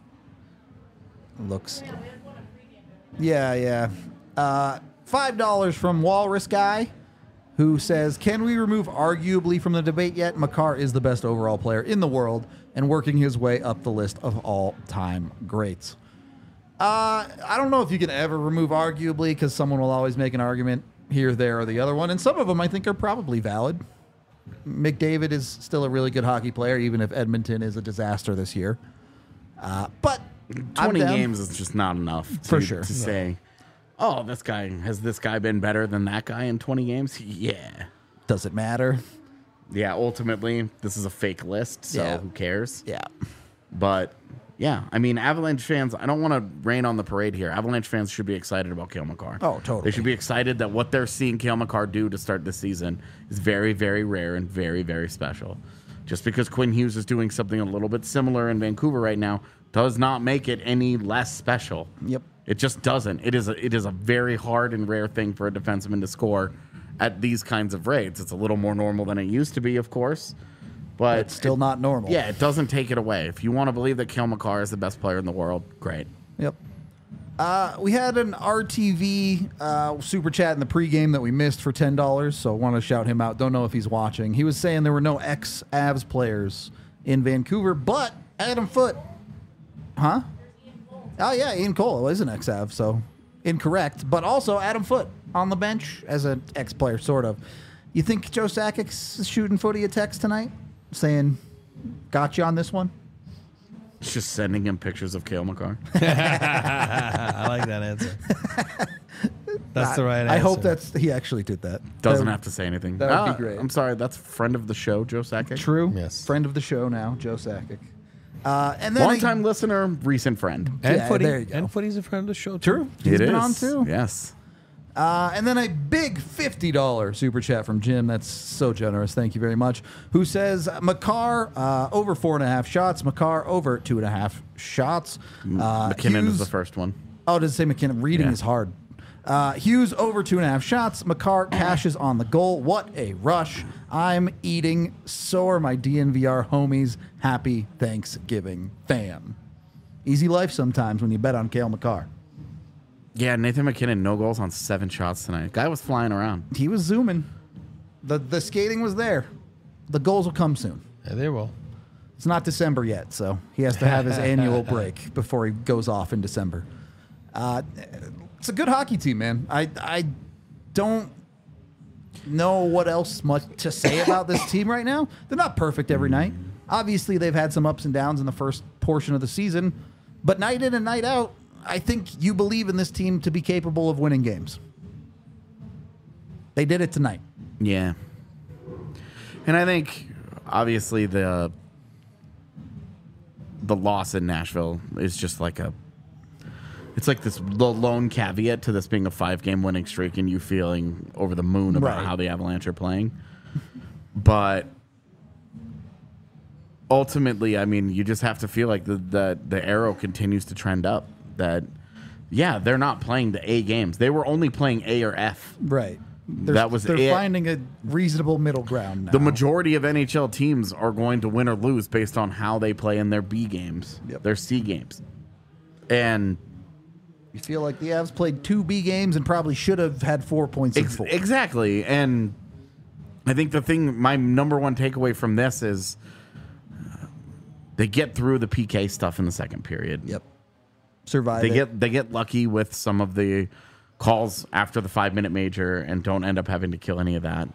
Looks. Yeah, yeah. Uh, Five dollars from Walrus Guy, who says, "Can we remove arguably from the debate yet? Makar is the best overall player in the world and working his way up the list of all-time greats." Uh, I don't know if you can ever remove arguably because someone will always make an argument here, there, or the other one, and some of them I think are probably valid. McDavid is still a really good hockey player, even if Edmonton is a disaster this year. Uh, but I'm twenty down. games is just not enough to, For sure. to No. say, oh, this guy, has this guy been better than that guy in twenty games? Yeah. Does it matter? Yeah, ultimately, this is a fake list, so Yeah. who cares? Yeah. But, yeah, I mean, Avalanche fans, I don't want to rain on the parade here. Avalanche fans should be excited about Cale Makar. Oh, totally. They should be excited that what they're seeing Cale Makar do to start this season is very, very rare and very, very special. Just because Quinn Hughes is doing something a little bit similar in Vancouver right now does not make it any less special. Yep. It just doesn't. It is a, it is a very hard and rare thing for a defenseman to score at these kinds of rates. It's a little more normal than it used to be, of course. But It's still it- not normal. Yeah, it doesn't take it away. If you want to believe that Cale Makar is the best player in the world, great. Yep. Uh, we had an R T V uh, super chat in the pregame that we missed for ten dollars, so I want to shout him out. Don't know if he's watching. He was saying there were no ex-Avs players in Vancouver, but Adam Foote. Huh? Oh, yeah, Ian Cole is an ex-Av, so incorrect. But also Adam Foote on the bench as an ex-player, sort of. You think Joe Sakic's shooting Footy a text tonight saying, got you on this one? It's just sending him pictures of Cale Makar. I like that answer. That's the right answer. I hope that's he actually did that. Doesn't That- have to say anything. that would be Ah, great. I'm sorry, that's friend of the show, Joe Sakic. True. Yes. Friend of the show now, Joe Sakic. Uh, and then Long I- time listener, recent friend. And Yeah, Footy. there you go. And Footy's a friend of the show. Too. True. He's It been is. on too. Yes. Uh, and then a big fifty dollars super chat from Jim. That's so generous. Thank you very much. Who says Makar uh, over four and a half shots, Makar over two and a half shots. Uh, McKinnon Hughes, is the first one. Oh, does it say McKinnon? Reading Yeah. is hard. Uh, Hughes over two and a half shots. Makar cashes on the goal. What a rush. I'm eating. So are my D N V R homies. Happy Thanksgiving, fam. Easy life sometimes when you bet on Cale Makar. Yeah, Nathan McKinnon, no goals on seven shots tonight. Guy was flying around. He was zooming. The the skating was there. The goals will come soon. Yeah, they will. It's not December yet, so he has to have his annual break before he goes off in December. Uh, it's a good hockey team, man. I I don't know what else much to say about this team right now. They're not perfect every night. Obviously, they've had some ups and downs in the first portion of the season, but night in and night out, I think you believe in this team to be capable of winning games. They did it tonight. Yeah. And I think obviously the the loss in Nashville is just like a it's like this the lone caveat to this being a five game winning streak and you feeling over the moon about Right. how the Avalanche are playing. But ultimately, I mean, you just have to feel like the the, the arrow continues to trend up. That yeah, they're not playing the A games. They were only playing A or F. Right. They're, That was they're it. finding a reasonable middle ground now. The majority of N H L teams are going to win or lose based on how they play in their B games, Yep. their C games. And You feel like the Avs played two B games and probably should have had four points in ex- four. exactly. And I think the thing, my number one takeaway from this is uh, they get through the P K stuff in the second period. Yep. Survive They it. get they get lucky with some of the calls after the five minute major and don't end up having to kill any of that.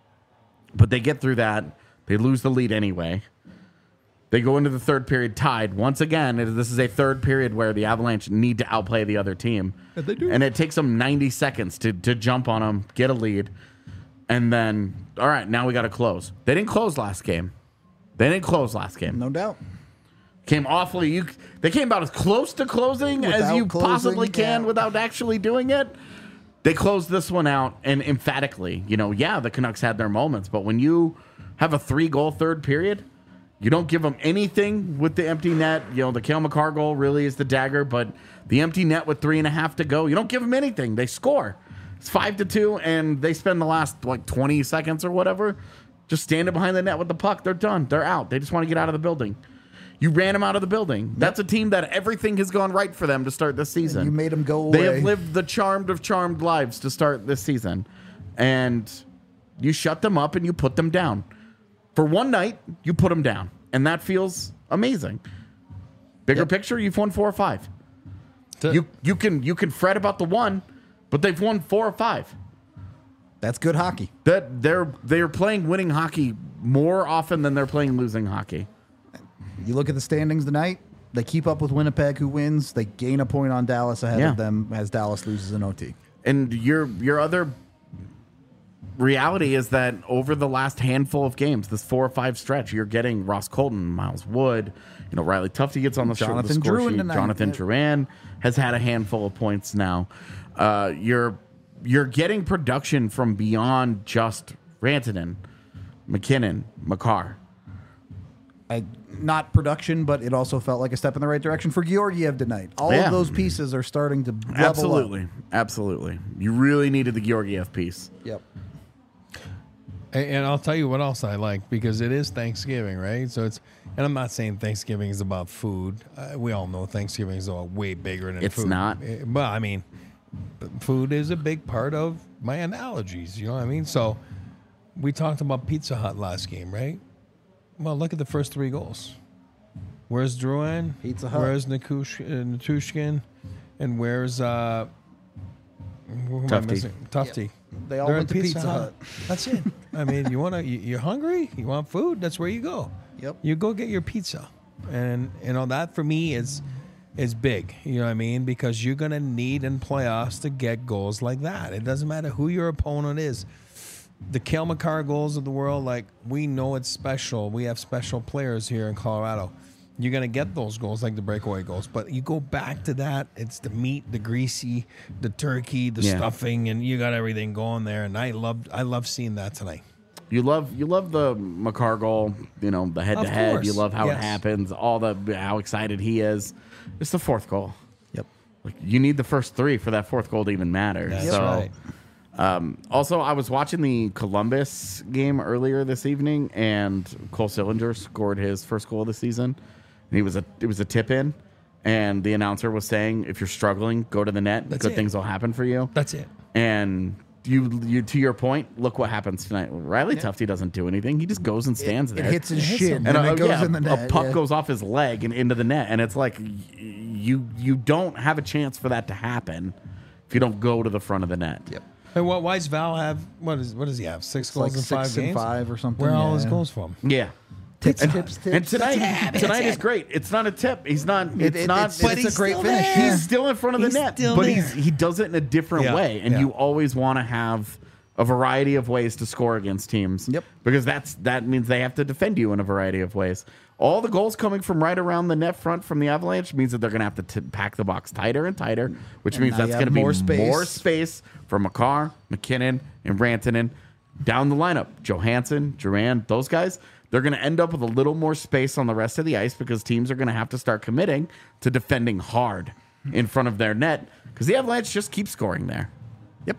But they get through that. They lose the lead anyway. They go into the third period tied. Once again, it- this is a third period where the Avalanche need to outplay the other team. And they do. And it takes them ninety seconds to, to jump on them, get a lead. And then, all right, now we got to close. They didn't close last game. They didn't close last game. No doubt. Came awfully. You, they came about as close to closing as Without you closing, possibly can yeah. without actually doing it. They closed this one out and emphatically. You know, yeah, the Canucks had their moments, but when you have a three-goal third period, you don't give them anything with the empty net. You know, the Cale Makar goal really is the dagger, but the empty net with three and a half to go, you don't give them anything. They score. It's five to two, and they spend the last like twenty seconds or whatever just standing behind the net with the puck. They're done. They're out. They just want to get out of the building. You ran them out of the building. That's a team that everything has gone right for them to start this season. You made them go They away. have lived the charmed of charmed lives to start this season. And you shut them up and you put them down. For one night, you put them down. And that feels amazing. Bigger Yep. picture, you've won four or five. To- You you can you can fret about the one, but they've won four or five. That's good hockey. That they're they're playing winning hockey more often than they're playing losing hockey. You look at the standings tonight. They keep up with Winnipeg, who wins. They gain a point on Dallas ahead Yeah. of them as Dallas loses in O T. And your your other reality is that over the last handful of games, this four or five stretch, you're getting Ross Colton, Miles Wood, you know, Riley Tufte gets on the, Jonathan the score Drouin sheet. tonight. Jonathan Yeah. Drouin has had a handful of points now. Uh, you're you're getting production from beyond just Rantanen, McKinnon, Makar. I, not production, but it also felt like a step in the right direction for Georgiev tonight. All Yeah. of those pieces are starting to level Absolutely, up. absolutely. You really needed the Georgiev piece. Yep. And, and I'll tell you what else I like, because it is Thanksgiving, right? So it's, and I'm not saying Thanksgiving is about food. Uh, we all know Thanksgiving is all way bigger than It's food. not. Uh, But I mean, food is a big part of my analogies. You know what I mean? So we talked about Pizza Hut last game, right? Well, look at the first three goals. Where's Drouin? Pizza Hut. Where's Nikush, uh, Natushkin? And where's uh, who am I Tufte. missing? Tufte. They all They're went at to Pizza Hut. That's it. I mean, you want to, you, you're hungry, you want food, that's where you go. Yep. You go get your pizza. And, you know, that for me is is big. You know what I mean? Because you're going to need in playoffs to get goals like that. It doesn't matter who your opponent is. The Cale Makar goals of the world, like, we know it's special. We have special players here in Colorado. you're going to get those goals like the breakaway goals. But you go back to that, it's the meat, the greasy, the turkey, the Yeah. stuffing, and you got everything going there. And I love I love seeing that tonight. You love you love the Makar goal, you know, the head to head. course. You love how it Yes. happens, all the how excited he is. It's the fourth goal. Yep. Like you need the first three for that fourth goal to even matter. That's so, right. um, also, I was watching the Columbus game earlier this evening, and Cole Sillinger scored his first goal of the season. And he was a it was a tip in, and the announcer was saying, if you're struggling, go to the net. That's Good it. things will happen for you. That's it. And you, you, to your point, look what happens tonight. Riley Tufte doesn't do anything. He just goes and stands It there. hits his It hits shin him. and, and it a, goes yeah, in the net. a puck yeah. goes off his leg and into the net, and it's like y- you you don't have a chance for that to happen if you don't go to the front of the net. Yep. And what? Why does Val have what is what does he have? Six It's goals like in five six games. and five or something. Where are all yeah. his goals from? Yeah. Tips, and, tips, tips. and tonight, tonight is great. It's not a tip. He's not. It's it- not. it's- but it's he's a great still finish, there. yeah. He's still in front of He's the net, still but there. he's, he does it in a different Yeah, way, and yeah. you always want to have a variety of ways to score against teams. Yep. Because that's that means they have to defend you in a variety of ways. All the goals coming from right around the net front from the Avalanche means that they're going to have to t- pack the box tighter and tighter, which And means now that's you going to have be more more space. space for Makar, McKinnon, and Rantanen down the lineup. Johansson, Duran, those guys, they're going to end up with a little more space on the rest of the ice because teams are going to have to start committing to defending hard in front of their net because the Avalanche just keep scoring there. Yep.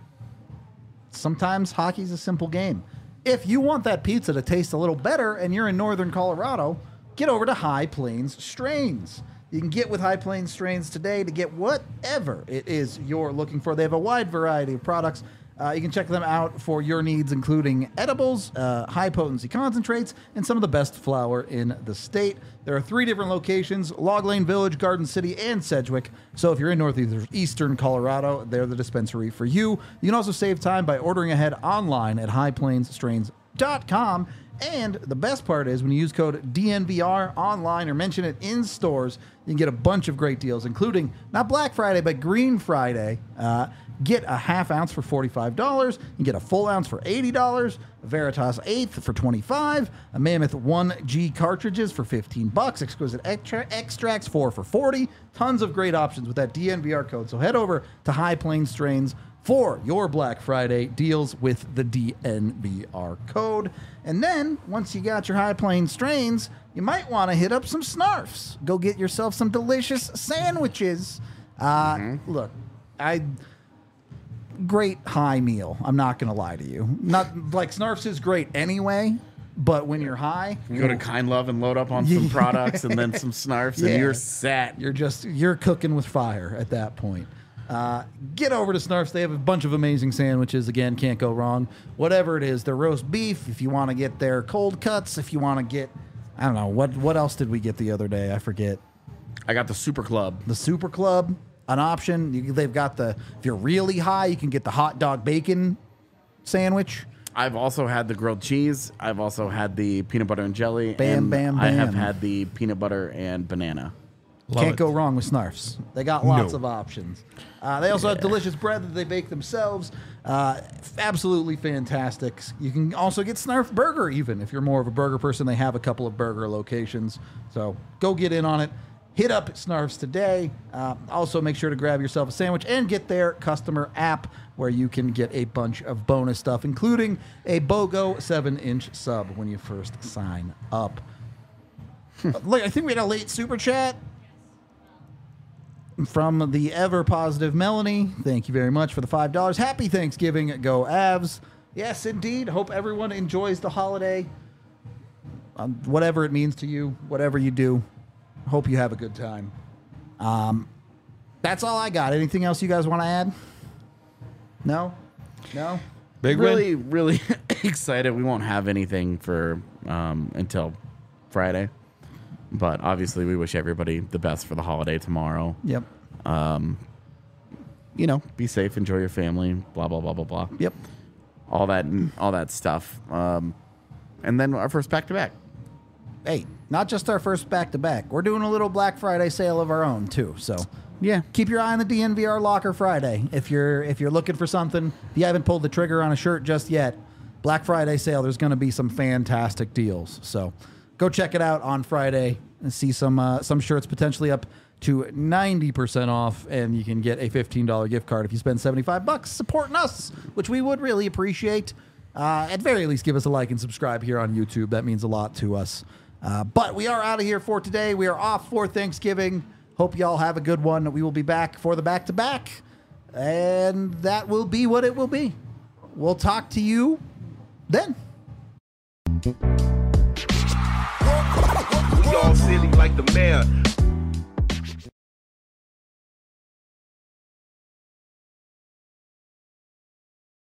Sometimes hockey's a simple game. If you want that pizza to taste a little better and you're in northern Colorado, get over to High Plains Strains. You can get with High Plains Strains today to get whatever it is you're looking for. They have a wide variety of products. Uh, you can check them out for your needs, including edibles, uh, high potency concentrates, and some of the best flour in the state. There are three different locations: Log Lane Village, Garden City, and Sedgwick. So if you're in northeastern Colorado, they're the dispensary for you. You can also save time by ordering ahead online at high plains strains dot com. And the best part is when you use code D N V R online or mention it in stores, you can get a bunch of great deals, including not Black Friday, but Green Friday. Uh, get a half ounce for forty-five dollars. You can get a full ounce for eighty dollars, a Veritas eighth for twenty-five dollars, a Mammoth one G cartridges for fifteen bucks, exquisite extra extracts four for forty dollars. Tons of great options with that D N V R code. So head over to High Plains Strains for your Black Friday deals with the D N V R code. And then, once you got your High Plains Strains, you might want to hit up some Snarfs. Go get yourself some delicious sandwiches. Uh, Look, I... Great high meal. I'm not going to lie to you. Not like Snarfs is great anyway, but when you're high, You go to Kind Love and load up on some products and then some Snarfs, Yeah. and you're set. You're just you're cooking with fire at that point. Uh, get over to Snarfs. They have a bunch of amazing sandwiches. Again, can't go wrong. Whatever it is, their roast beef. If you want to get their cold cuts, if you want to get, I don't know what what else did we get the other day? I forget. I got the Super Club. The Super Club, an option. You, they've got the if you're really high, you can get the hot dog bacon sandwich. I've also had the grilled cheese. I've also had the peanut butter and jelly. Bam, and bam, I have bam. had the peanut butter and banana. Love Can't it. go wrong with Snarfs. They got lots No. of options. Uh, they also have delicious bread that they bake themselves. Uh, f- absolutely fantastic. You can also get Snarf Burger even if you're more of a burger person. They have a couple of burger locations. So go get in on it. Hit up Snarfs today. Uh, also, make sure to grab yourself a sandwich and get their customer app where you can get a bunch of bonus stuff, including a BOGO seven inch sub when you first sign up. Uh, Look, I think we had a late super chat from the ever positive Melanie. Thank you very much for the five dollars. Happy Thanksgiving, go Avs. Yes, indeed. Hope everyone enjoys the holiday. Um, whatever it means to you, whatever you do, hope you have a good time. Um, that's all I got. Anything else you guys want to add? No? No? Big win. really, really excited. We won't have anything for um, until Friday, but obviously we wish everybody the best for the holiday tomorrow. Yep. You know, be safe, enjoy your family, blah blah blah blah blah. Yep. All that, all that stuff. Um, and then our first back to back. Hey, not just our first back-to-back. We're doing a little Black Friday sale of our own, too, so... Yeah, Keep your eye on the D N V R Locker Friday. If you're if you're looking for something, if you haven't pulled the trigger on a shirt just yet, Black Friday sale, there's going to be some fantastic deals. So go check it out on Friday. and see some uh, some shirts potentially up to ninety percent off, and you can get a fifteen dollar gift card if you spend seventy-five bucks supporting us, which we would really appreciate. Uh, at very least, give us a like and subscribe here on YouTube. That means a lot to us. Uh, but we are out of here for today. We are off for Thanksgiving. Hope y'all have a good one. We will be back for the back-to-back, and that will be what it will be. We'll talk to you then. We all silly like the mayor.